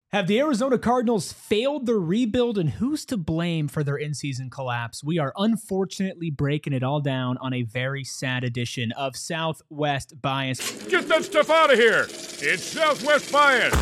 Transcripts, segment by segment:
Have the Arizona Cardinals failed their rebuild, and who's to blame for their in-season collapse? We are unfortunately breaking it all down on a very sad edition of Southwest Bias. Get that stuff out of here! It's Southwest Bias!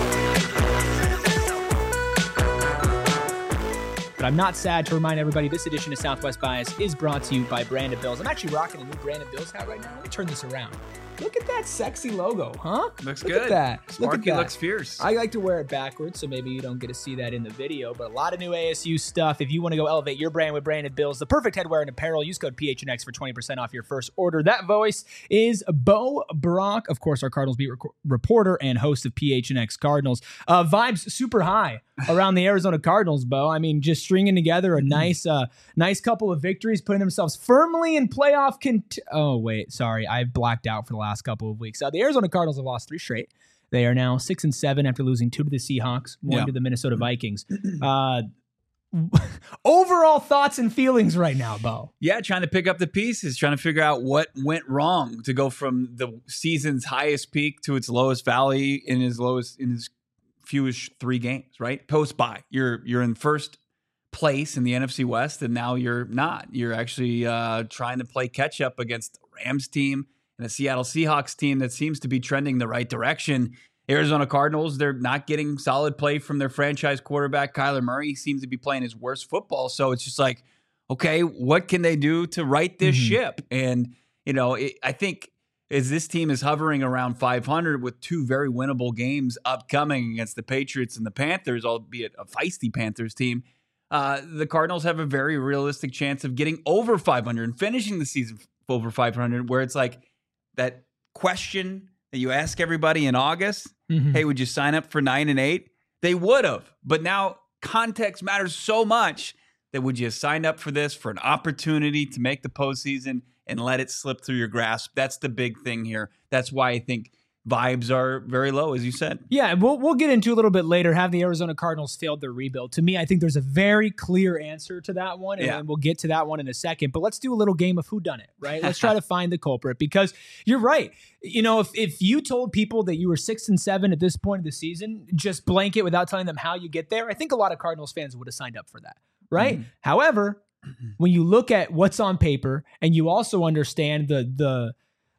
But I'm not sad to remind everybody this edition of Southwest Bias is brought to you by Brandon Bills. I'm actually rocking a new Brandon Bills hat right now. Let me turn this around. Look at that sexy logo, huh? Looks Look good. At that. Sparky looks fierce. I like to wear it backwards, so maybe you don't get to see that in the video, but a lot of new ASU stuff. If you want to go elevate your brand with Brandon Bills, the perfect headwear and apparel, use code PHNX for 20% off your first order. That voice is Bo Brock, of course, our Cardinals beat reporter and host of PHNX Cardinals. Vibes super high around the Arizona Cardinals, Bo. I mean, just stringing together a nice couple of victories, putting themselves firmly in playoff Oh, wait, sorry. I've blacked out for the last couple of weeks. The Arizona Cardinals have lost 3 straight. They are now 6-7 after losing 2 to the Seahawks, 1 to the Minnesota Vikings. Overall thoughts and feelings right now, Bo. Yeah, trying to pick up the pieces, trying to figure out what went wrong to go from the season's highest peak to its lowest valley in his fewest 3 games, right? Post-bye. You're in first place in the NFC West, and now you're not. You're actually trying to play catch up against the Rams team and a Seattle Seahawks team that seems to be trending the right direction. Arizona Cardinals, they're not getting solid play from their franchise quarterback, Kyler Murray. He seems to be playing his worst football. So it's just like, okay, what can they do to right this ship? And, I think as this team is hovering around 500 with 2 very winnable games upcoming against the Patriots and the Panthers, albeit a feisty Panthers team, the Cardinals have a very realistic chance of getting over 500 and finishing the season over 500, where it's like that question that you ask everybody in August, hey, would you sign up for 9 and 8? They would have, but now context matters so much that would you sign up for this for an opportunity to make the postseason and let it slip through your grasp? That's the big thing here. That's why I think vibes are very low, as you said. Yeah, we'll get into a little bit later. Have the Arizona Cardinals failed their rebuild? To me, I think there's a very clear answer to that one, and we'll get to that one in a second. But let's do a little game of whodunit, right? Let's try to find the culprit, because you're right. If you told people that you were 6-7 at this point of the season, just blanket without telling them how you get there, I think a lot of Cardinals fans would have signed up for that, right? However, when you look at what's on paper and you also understand the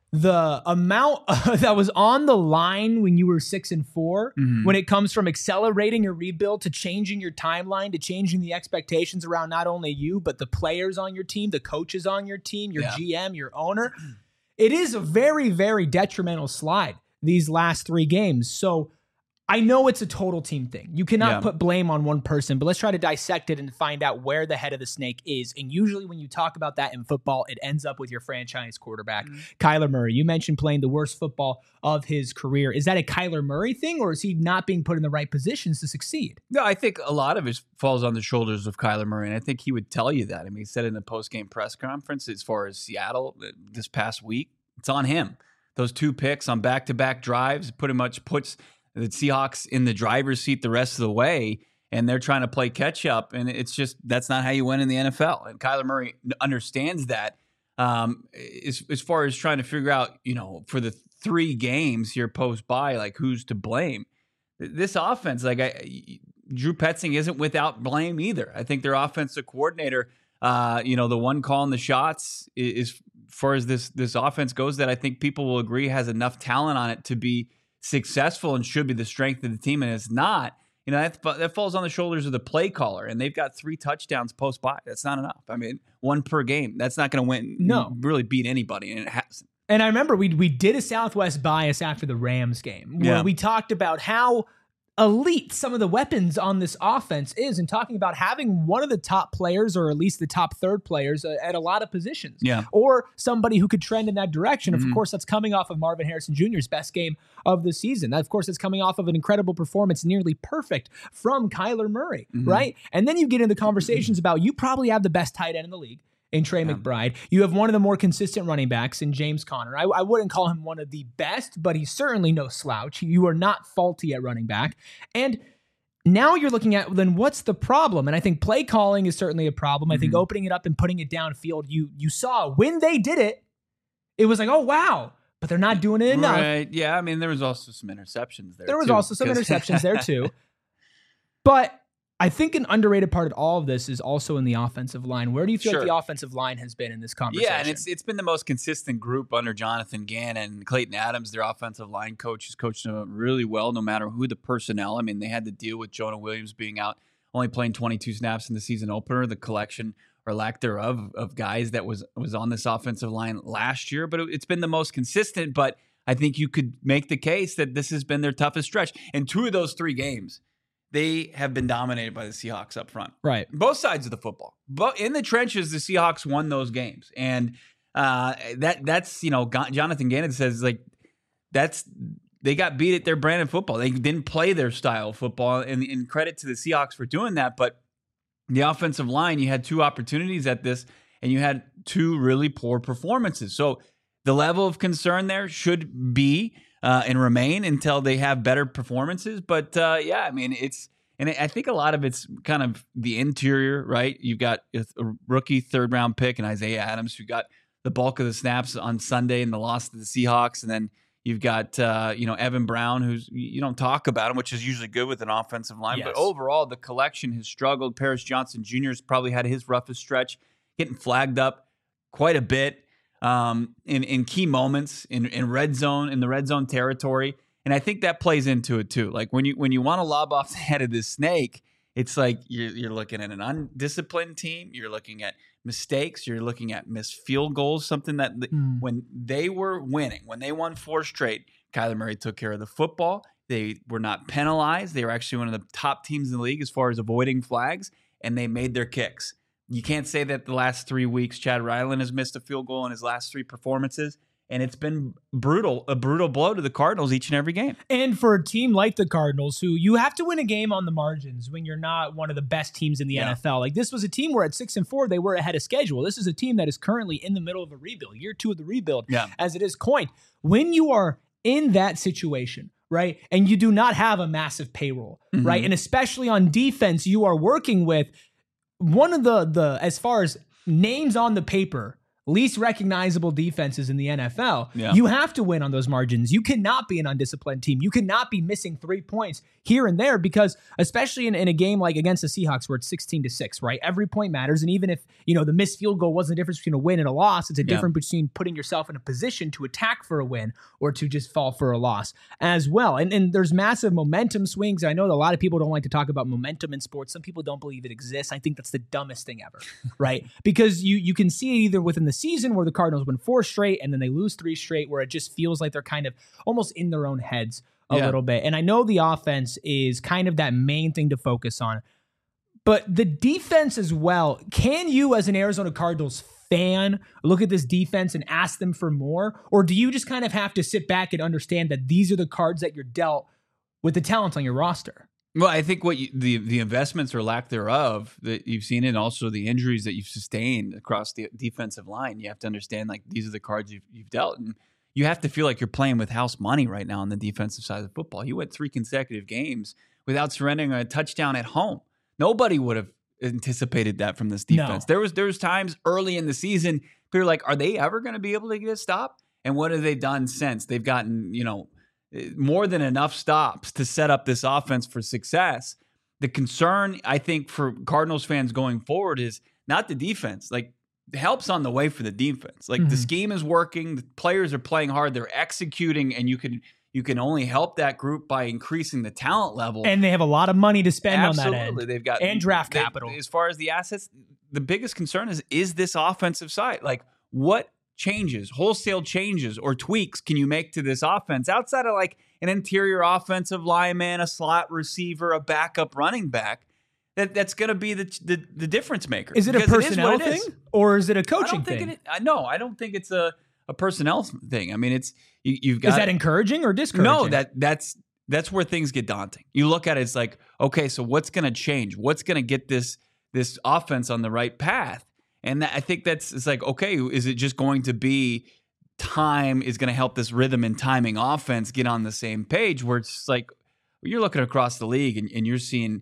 amount that was on the line when you were 6-4, when it comes from accelerating your rebuild to changing your timeline, to changing the expectations around not only you, but the players on your team, the coaches on your team, your GM, your owner, it is a very, very detrimental slide these last 3 games. So I know it's a total team thing. You cannot put blame on one person, but let's try to dissect it and find out where the head of the snake is. And usually when you talk about that in football, it ends up with your franchise quarterback, Kyler Murray. You mentioned playing the worst football of his career. Is that a Kyler Murray thing, or is he not being put in the right positions to succeed? No, I think a lot of it falls on the shoulders of Kyler Murray, and I think he would tell you that. I mean, he said in the post-game press conference, as far as Seattle this past week, it's on him. Those 2 picks on back-to-back drives pretty much puts the Seahawks in the driver's seat the rest of the way, and they're trying to play catch up, and it's just, that's not how you win in the NFL. And Kyler Murray understands that. As far as trying to figure out, for the 3 games here post-bye, like who's to blame? This offense, Drew Petzing isn't without blame either. I think their offensive coordinator, the one calling the shots is, as far as this offense goes, that I think people will agree has enough talent on it to be successful and should be the strength of the team, and it's not. That falls on the shoulders of the play caller, and they've got 3 touchdowns post-bye. That's not enough. I mean, 1 per game. That's not going to win. No, really beat anybody, and it hasn't. And I remember we did a Southwest Bias after the Rams game where we talked about how elite some of the weapons on this offense is, and talking about having one of the top players, or at least the top third players at a lot of positions, or somebody who could trend in that direction. Of course, that's coming off of Marvin Harrison Jr.'s best game of the season. That, of course, is coming off of an incredible performance, nearly perfect, from Kyler Murray, right? And then you get into conversations about, you probably have the best tight end in the league in Trey McBride. You have one of the more consistent running backs in James Conner. I wouldn't call him one of the best, but he's certainly no slouch. You are not faulty at running back. And now you're looking at, then what's the problem? And I think play calling is certainly a problem. I think opening it up and putting it downfield, you saw when they did it, it was like, oh, wow. But they're not doing it enough. Right. Yeah, I mean, there was also some interceptions there. There was also some interceptions there, too. But I think an underrated part of all of this is also in the offensive line. Where do you feel like the offensive line has been in this conversation? Yeah, and it's been the most consistent group under Jonathan Gannon. Clayton Adams, their offensive line coach, has coached them really well no matter who the personnel. I mean, they had to deal with Jonah Williams being out, only playing 22 snaps in the season opener, the collection or lack thereof of guys that was on this offensive line last year. But it's been the most consistent, but I think you could make the case that this has been their toughest stretch. In 2 of those 3 games, they have been dominated by the Seahawks up front. Right. Both sides of the football. But in the trenches, the Seahawks won those games. And that's, Jonathan Gannon says, like, they got beat at their brand of football. They didn't play their style of football. And credit to the Seahawks for doing that. But the offensive line, you had 2 opportunities at this, and you had 2 really poor performances. So the level of concern there should be and remain until they have better performances. But I mean, I think a lot of it's kind of the interior, right? You've got a rookie 3rd round pick and Isaiah Adams, who got the bulk of the snaps on Sunday in the loss to the Seahawks. And then you've got, Evan Brown, who's, you don't talk about him, which is usually good with an offensive line. Yes. But overall, the collection has struggled. Paris Johnson Jr. has probably had his roughest stretch, getting flagged up quite a bit. In key moments in the red zone territory. And I think that plays into it too. Like when you want to lob off the head of this snake, it's like you're looking at an undisciplined team. You're looking at mistakes. You're looking at missed field goals, something that when they were winning, when they won 4 straight, Kyler Murray took care of the football. They were not penalized. They were actually one of the top teams in the league as far as avoiding flags, and they made their kicks. You can't say that the last 3 weeks, Chad Ryland has missed a field goal in his last 3 performances, and it's been a brutal blow to the Cardinals each and every game. And for a team like the Cardinals, who you have to win a game on the margins when you're not one of the best teams in the NFL. Like, this was a team where at 6-4, they were ahead of schedule. This is a team that is currently in the middle of a rebuild, year 2 of the rebuild, as it is coined. When you are in that situation, right, and you do not have a massive payroll, right, and especially on defense, you are working with one of the as far as names on the paper, least recognizable defenses in the NFL. Yeah. You have to win on those margins. You cannot be an undisciplined team. You cannot be missing 3 points here and there, because especially in a game like against the Seahawks where it's 16-6, right? Every point matters. And even if, the missed field goal wasn't the difference between a win and a loss, it's a difference between putting yourself in a position to attack for a win or to just fall for a loss as well. And there's massive momentum swings. I know that a lot of people don't like to talk about momentum in sports. Some people don't believe it exists. I think that's the dumbest thing ever, right? Because you can see it either within the season where the Cardinals win 4 straight and then they lose 3 straight, where it just feels like they're kind of almost in their own heads a little bit. And I know the offense is kind of that main thing to focus on, but the defense as well. Can you, as an Arizona Cardinals fan, look at this defense and ask them for more? Or do you just kind of have to sit back and understand that these are the cards that you're dealt with the talent on your roster? Well, I think the investments or lack thereof that you've seen, and also the injuries that you've sustained across the defensive line, you have to understand, like, these are the cards you've dealt, and you have to feel like you're playing with house money right now on the defensive side of football. You went 3 consecutive games without surrendering a touchdown at home. Nobody would have anticipated that from this defense. No. There was times early in the season people were like, are they ever going to be able to get a stop? And what have they done since? They've gotten, more than enough stops to set up this offense for success. The concern, I think, for Cardinals fans going forward is not the defense. Like, the help's on the way for the defense. Like, the scheme is working. The players are playing hard. They're executing, and you can only help that group by increasing the talent level. And they have a lot of money to spend on that end. Absolutely. They've got and draft capital. As far as the assets, the biggest concern is this offensive side. Like, what changes, wholesale changes or tweaks can you make to this offense outside of like an interior offensive lineman, a slot receiver, a backup running back? That's going to be the difference maker. Is it a personnel thing or is it a coaching thing? No, I don't think it's a personnel thing. I mean, it's you've got. Is that encouraging or discouraging? No, that's where things get daunting. You look at it, it's like, okay, so what's going to change? What's going to get this offense on the right path? And I think it's like, okay, is it just going to be time is going to help this rhythm and timing offense get on the same page, where it's like you're looking across the league and you're seeing,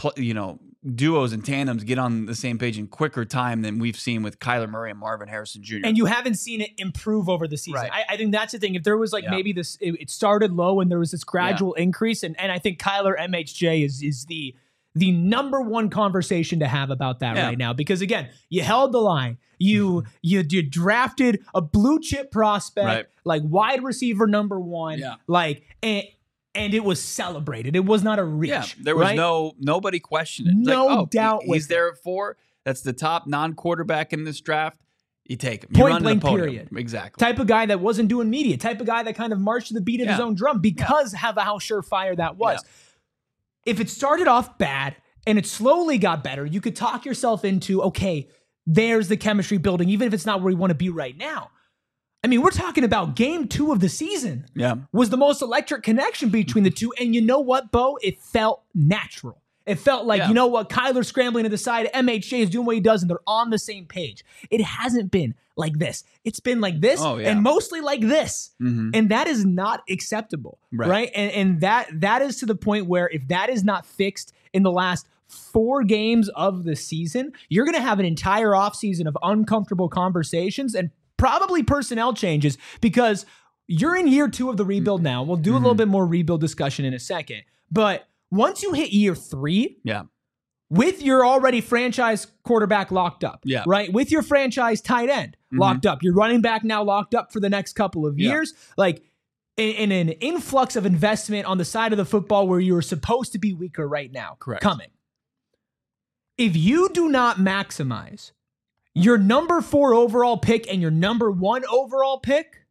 duos and tandems get on the same page in quicker time than we've seen with Kyler Murray and Marvin Harrison Jr. And you haven't seen it improve over the season. Right. I think that's the thing. If there was maybe it started low and there was this gradual increase, and I think Kyler MHJ is the number one conversation to have about that right now. Because again, you held the line. You drafted a blue chip prospect, like wide receiver number one, like and it was celebrated. It was not a reach. Yeah, there was nobody questioned it. No doubt. He's there at 4. That's the top non-quarterback in this draft. You take him. Point blank, period. Exactly. Type of guy that wasn't doing media. Type of guy that kind of marched to the beat of his own drum because of how surefire that was. Yeah. If it started off bad and it slowly got better, you could talk yourself into, okay, there's the chemistry building, even if it's not where we want to be right now. I mean, we're talking about game 2 of the season. Yeah. Was the most electric connection between the two. And you know what, Bo? It felt natural. It felt like, you know what, Kyler scrambling to the side, MHJ is doing what he does, and they're on the same page. It hasn't been like this. It's been like this and mostly like this. Mm-hmm. And that is not acceptable, right? And that is to the point where if that is not fixed in the last 4 games of the season, you're going to have an entire offseason of uncomfortable conversations and probably personnel changes because you're in year 2 of the rebuild now. We'll do a little bit more rebuild discussion in a second. But once you hit year 3, with your already franchise quarterback locked up, right? With your franchise tight end locked up, your running back now locked up for the next couple of years, like in an influx of investment on the side of the football where you're supposed to be weaker right now, coming. If you do not maximize your number 4 overall pick and your number 1 overall pick,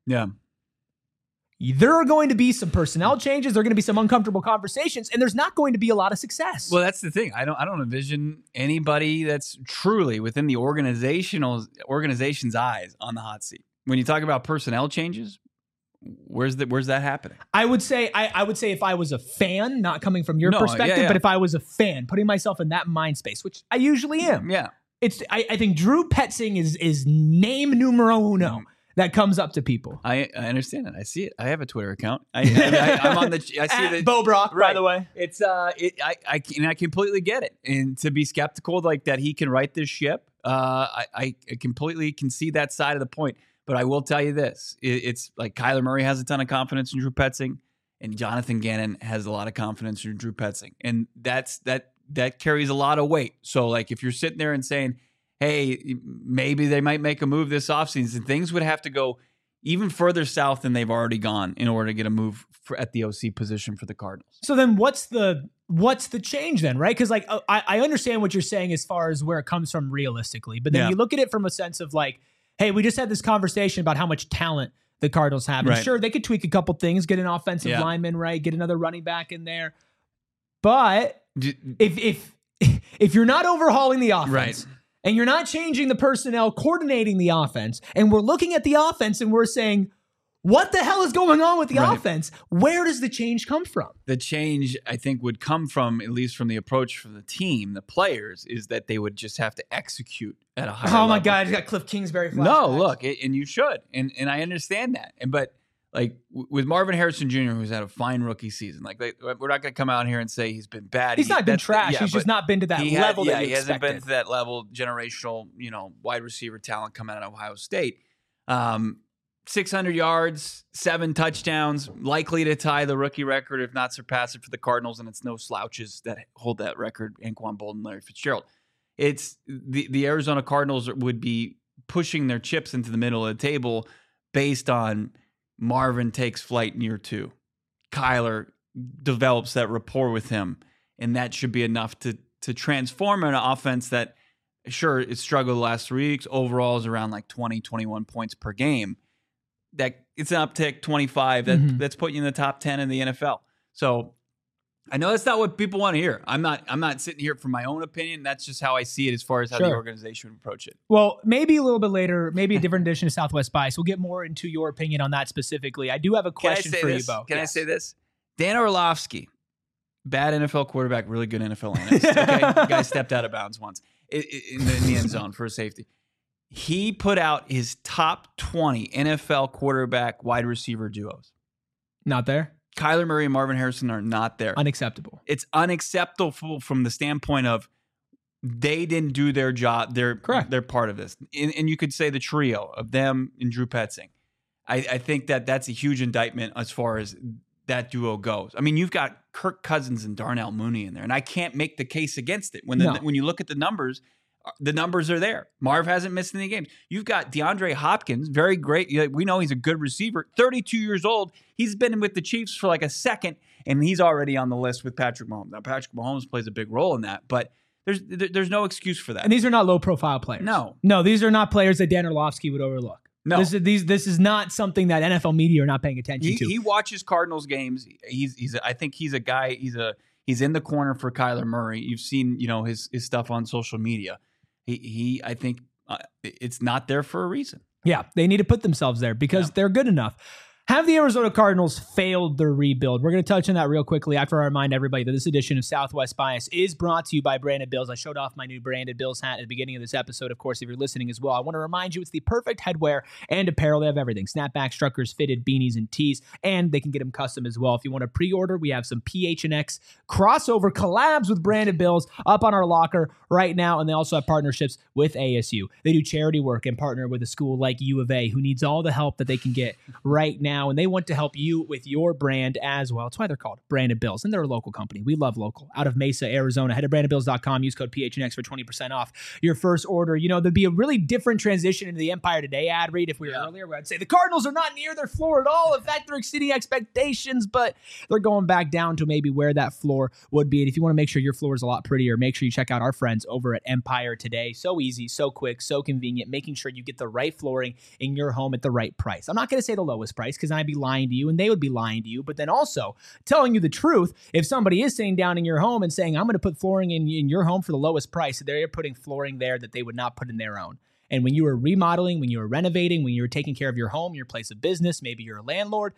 there are going to be some personnel changes. There are going to be some uncomfortable conversations, and there's not going to be a lot of success. Well, that's the thing. I don't envision anybody that's truly within the organization's eyes on the hot seat. When you talk about personnel changes, where's that happening? I would say if I was a fan, not coming from your perspective, but if I was a fan, putting myself in that mind space, which I usually am. Yeah. I think Drew Petzing is name numero uno. That comes up to people. I understand it. I see it. I have a Twitter account. I'm on the. I see that Bo Brock, by the way. It's I completely get it, and to be skeptical like that he can right this ship. I completely can see that side of the point. But I will tell you this: it's like Kyler Murray has a ton of confidence in Drew Petzing, and Jonathan Gannon has a lot of confidence in Drew Petzing, and that carries a lot of weight. So like if you're sitting there and saying, hey, maybe they might make a move this offseason, things would have to go even further south than they've already gone in order to get a move at the OC position for the Cardinals. So then what's the change then, right? Because like I understand what you're saying as far as where it comes from realistically, but then you look at it from a sense of like, hey, we just had this conversation about how much talent the Cardinals have. And sure, they could tweak a couple things, get an offensive lineman, right? Get another running back in there. But if you're not overhauling the offense, and you're not changing the personnel, coordinating the offense, and we're looking at the offense and we're saying, what the hell is going on with the offense? Where does the change come from? The change, I think, would come from, at least from the approach from the team, the players, is that they would just have to execute at a higher level. Oh, my God. You got Cliff Kingsbury flashbacks. No, look, and you should. And I understand that. But like with Marvin Harrison Jr., who's had a fine rookie season, like we're not going to come out here and say he's been bad. He's not been trash. He's just not been to that level that he hasn't been to that level, generational, wide receiver talent coming out of Ohio State. 600 yards, 7 touchdowns, likely to tie the rookie record, if not surpass it for the Cardinals, and it's no slouches that hold that record, Anquan Boldin, Larry Fitzgerald. It's the Arizona Cardinals would be pushing their chips into the middle of the table based on Marvin takes flight in year 2. Kyler develops that rapport with him, and that should be enough to transform an offense that, sure, it struggled the last 3 weeks. Overall is around like 20, 21 points per game. That it's an uptick, 25. That's putting you in the top 10 in the NFL. So I know that's not what people want to hear. I'm not sitting here for my own opinion. That's just how I see it as far as how the organization would approach it. Well, maybe a little bit later, maybe a different edition of Southwest Bias. We'll get more into your opinion on that specifically. I do have a question for you, Bo. Can I say this? Dan Orlovsky, bad NFL quarterback, really good NFL analyst. Okay? The guy stepped out of bounds once in the end zone for a safety. He put out his top 20 NFL quarterback wide receiver duos. Not there? Kyler Murray and Marvin Harrison are not there. Unacceptable. It's unacceptable from the standpoint of they didn't do their job. They're part of this. And you could say the trio of them and Drew Petzing. I think that's a huge indictment as far as that duo goes. I mean, you've got Kirk Cousins and Darnell Mooney in there, and I can't make the case against it. When you look at the numbers are there. Marv hasn't missed any games. You've got DeAndre Hopkins, very great. We know he's a good receiver. 32 years old. He's been with the Chiefs for like a second, and he's already on the list with Patrick Mahomes. Now, Patrick Mahomes plays a big role in that, but there's no excuse for that. And these are not low-profile players. No, these are not players that Dan Orlovsky would overlook. No, this is not something that NFL media are not paying attention to. He watches Cardinals games. I think he's a guy. He's in the corner for Kyler Murray. You've seen his stuff on social media. I think it's not there for a reason. Yeah, they need to put themselves there because they're good enough. Have the Arizona Cardinals failed their rebuild? We're going to touch on that real quickly after I remind everybody that this edition of Southwest Bias is brought to you by Branded Bills. I showed off my new Branded Bills hat at the beginning of this episode. Of course, if you're listening as well, I want to remind you it's the perfect headwear and apparel. They have everything. Snapbacks, truckers, fitted, beanies, and tees, and they can get them custom as well. If you want to pre-order, we have some PHNX crossover collabs with Branded Bills up on our locker right now, and they also have partnerships with ASU. They do charity work and partner with a school like U of A who needs all the help that they can get right now. And they want to help you with your brand as well. That's why they're called Branded Bills, and they're a local company. We love local. Out of Mesa, Arizona. Head to brandedbills.com. Use code PHNX for 20% off your first order. There'd be a really different transition into the Empire Today ad read if we were earlier, where I'd say the Cardinals are not near their floor at all. In fact, they're exceeding expectations, but they're going back down to maybe where that floor would be. And if you want to make sure your floor is a lot prettier, make sure you check out our friends over at Empire Today. So easy, so quick, so convenient, making sure you get the right flooring in your home at the right price. I'm not going to say the lowest price because I'd be lying to you and they would be lying to you, but then also telling you the truth. If somebody is sitting down in your home and saying, I'm going to put flooring in your home for the lowest price, they're putting flooring there that they would not put in their own. And when you are remodeling, when you are renovating, when you're taking care of your home, your place of business, maybe you're a landlord,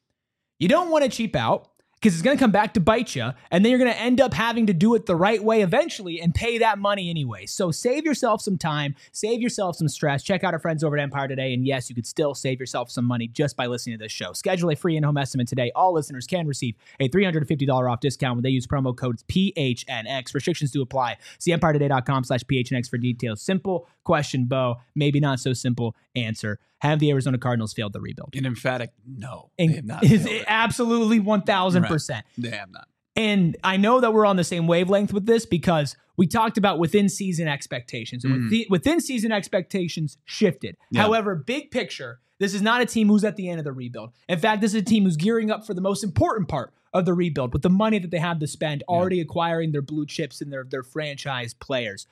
you don't want to cheap out because it's going to come back to bite you, and then you're going to end up having to do it the right way eventually and pay that money anyway. So save yourself some time, save yourself some stress. Check out our friends over at Empire Today, and yes, you could still save yourself some money just by listening to this show. Schedule a free in-home estimate today. All listeners can receive a $350 off discount when they use promo code PHNX. Restrictions do apply. See EmpireToday.com/PHNX for details. Simple question, Bo. Maybe not so simple answer. Have the Arizona Cardinals failed the rebuild? An emphatic no. They have not failed it. Absolutely 1,000%. Right. They have not. And I know that we're on the same wavelength with this because we talked about within-season expectations. And within-season expectations shifted. Yeah. However, big picture, this is not a team who's at the end of the rebuild. In fact, this is a team who's gearing up for the most important part of the rebuild with the money that they have to spend, already acquiring their blue chips and their franchise players.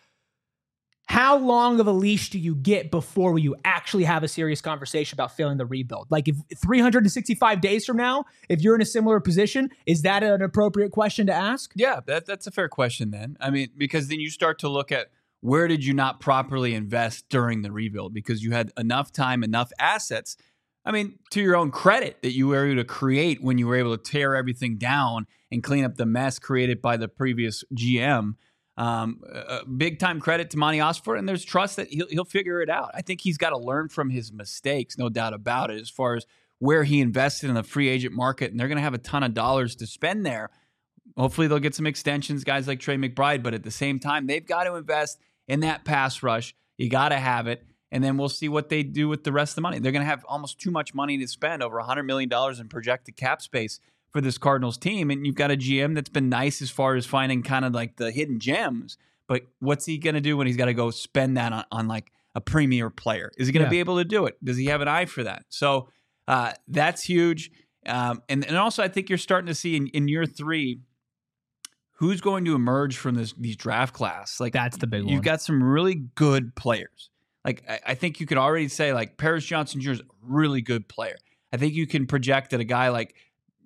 How long of a leash do you get before you actually have a serious conversation about failing the rebuild? Like if 365 days from now, if you're in a similar position, is that an appropriate question to ask? Yeah, that's a fair question then. I mean, because then you start to look at where did you not properly invest during the rebuild because you had enough time, enough assets. I mean, to your own credit that you were able to create when you were able to tear everything down and clean up the mess created by the previous GM. Big time credit to Monty Osborne, and there's trust that he'll figure it out. I think he's got to learn from his mistakes, no doubt about it, as far as where he invested in the free agent market, and they're going to have a ton of dollars to spend there. Hopefully they'll get some extensions, guys like Trey McBride, but at the same time, they've got to invest in that pass rush. You got to have it, and then we'll see what they do with the rest of the money. They're going to have almost too much money to spend, over $100 million in projected cap space for this Cardinals team, and you've got a GM that's been nice as far as finding kind of like the hidden gems, but what's he going to do when he's got to go spend that on like a premier player? Is he going to be able to do it? Does he have an eye for that? So that's huge. And also I think you're starting to see in year 3, who's going to emerge from these draft class. Like that's the big one. You've got some really good players. Like I think you could already say like Paris Johnson Jr. is a really good player. I think you can project that a guy like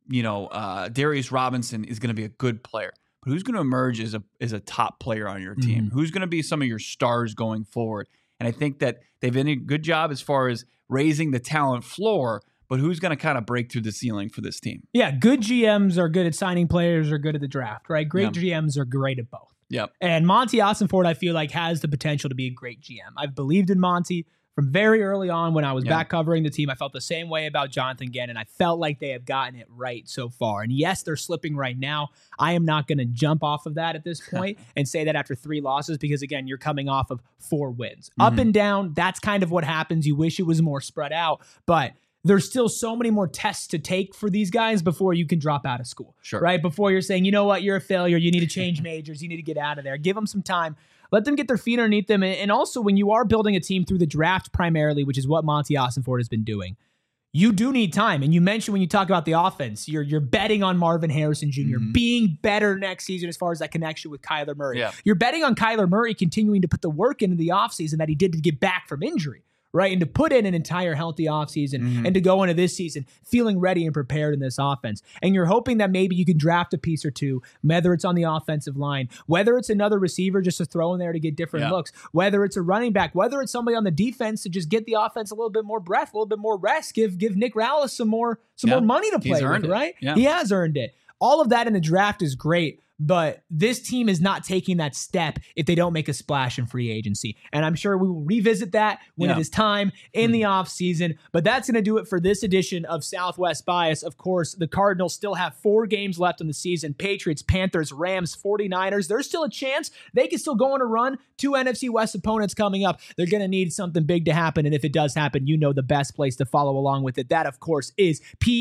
Darius Robinson is going to be a good player, but who's going to emerge as a top player on your team? Mm-hmm. Who's going to be some of your stars going forward? And I think that they've done a good job as far as raising the talent floor, but who's going to kind of break through the ceiling for this team? Yeah, good GMs are good at signing players, are good at the draft, right? Great GMs are great at both. Yep. And Monty Ossenford, I feel like, has the potential to be a great GM. I've believed in Monty from very early on when I was back covering the team. I felt the same way about Jonathan Gannon. I felt like they have gotten it right so far. And yes, they're slipping right now. I am not going to jump off of that at this point and say that after 3 losses, because again, you're coming off of 4 wins. Mm-hmm. Up and down, that's kind of what happens. You wish it was more spread out, but there's still so many more tests to take for these guys before you can drop out of school, right? Before you're saying, you know what, you're a failure, you need to change majors, you need to get out of there. Give them some time. Let them get their feet underneath them. And also, when you are building a team through the draft primarily, which is what Monty Ossenfort has been doing, you do need time. And you mentioned when you talk about the offense, you're betting on Marvin Harrison Jr. being better next season as far as that connection with Kyler Murray. Yeah. You're betting on Kyler Murray continuing to put the work into the offseason that he did to get back from injury, right? And to put in an entire healthy offseason and to go into this season feeling ready and prepared in this offense. And you're hoping that maybe you can draft a piece or two, whether it's on the offensive line, whether it's another receiver just to throw in there to get different looks, whether it's a running back, whether it's somebody on the defense to just get the offense a little bit more breath, a little bit more rest, give Nick Rallis some more money to play with, right? Yeah. He has earned it. All of that in the draft is great. But this team is not taking that step if they don't make a splash in free agency. And I'm sure we will revisit that when it is time in the offseason. But that's going to do it for this edition of Southwest Bias. Of course, the Cardinals still have 4 games left in the season. Patriots, Panthers, Rams, 49ers. There's still a chance they can still go on a run. 2 NFC West opponents coming up. They're going to need something big to happen. And if it does happen, you know the best place to follow along with it. That, of course, is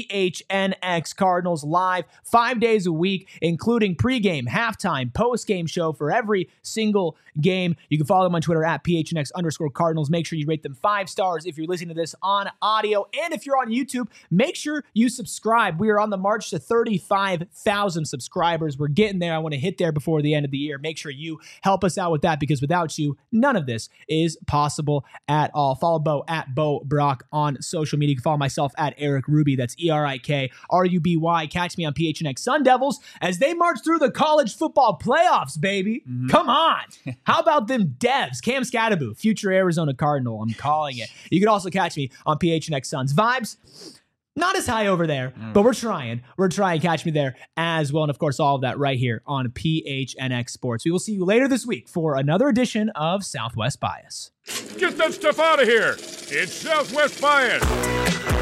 PHNX Cardinals live 5 days a week, including pregame, halftime, post-game show for every single game. You can follow them on Twitter at PHNX_Cardinals. Make sure you rate them 5 stars if you're listening to this on audio. And if you're on YouTube, make sure you subscribe. We are on the march to 35,000 subscribers. We're getting there. I want to hit there before the end of the year. Make sure you help us out with that, because without you, none of this is possible at all. Follow Bo at Bo Brock on social media. You can follow myself at Eric Ruby. That's ErikRuby. Catch me on PHNX Sun Devils as they march through the college football playoffs, baby. Come on. How about them Devs? Cam Scatterbo, future Arizona Cardinal. I'm calling it. You can also catch me on PHNX Suns. Vibes, not as high over there, but we're trying. Catch me there as well. And of course, all of that right here on PHNX Sports. We will see you later this week for another edition of Southwest Bias. Get that stuff out of here. It's Southwest Bias.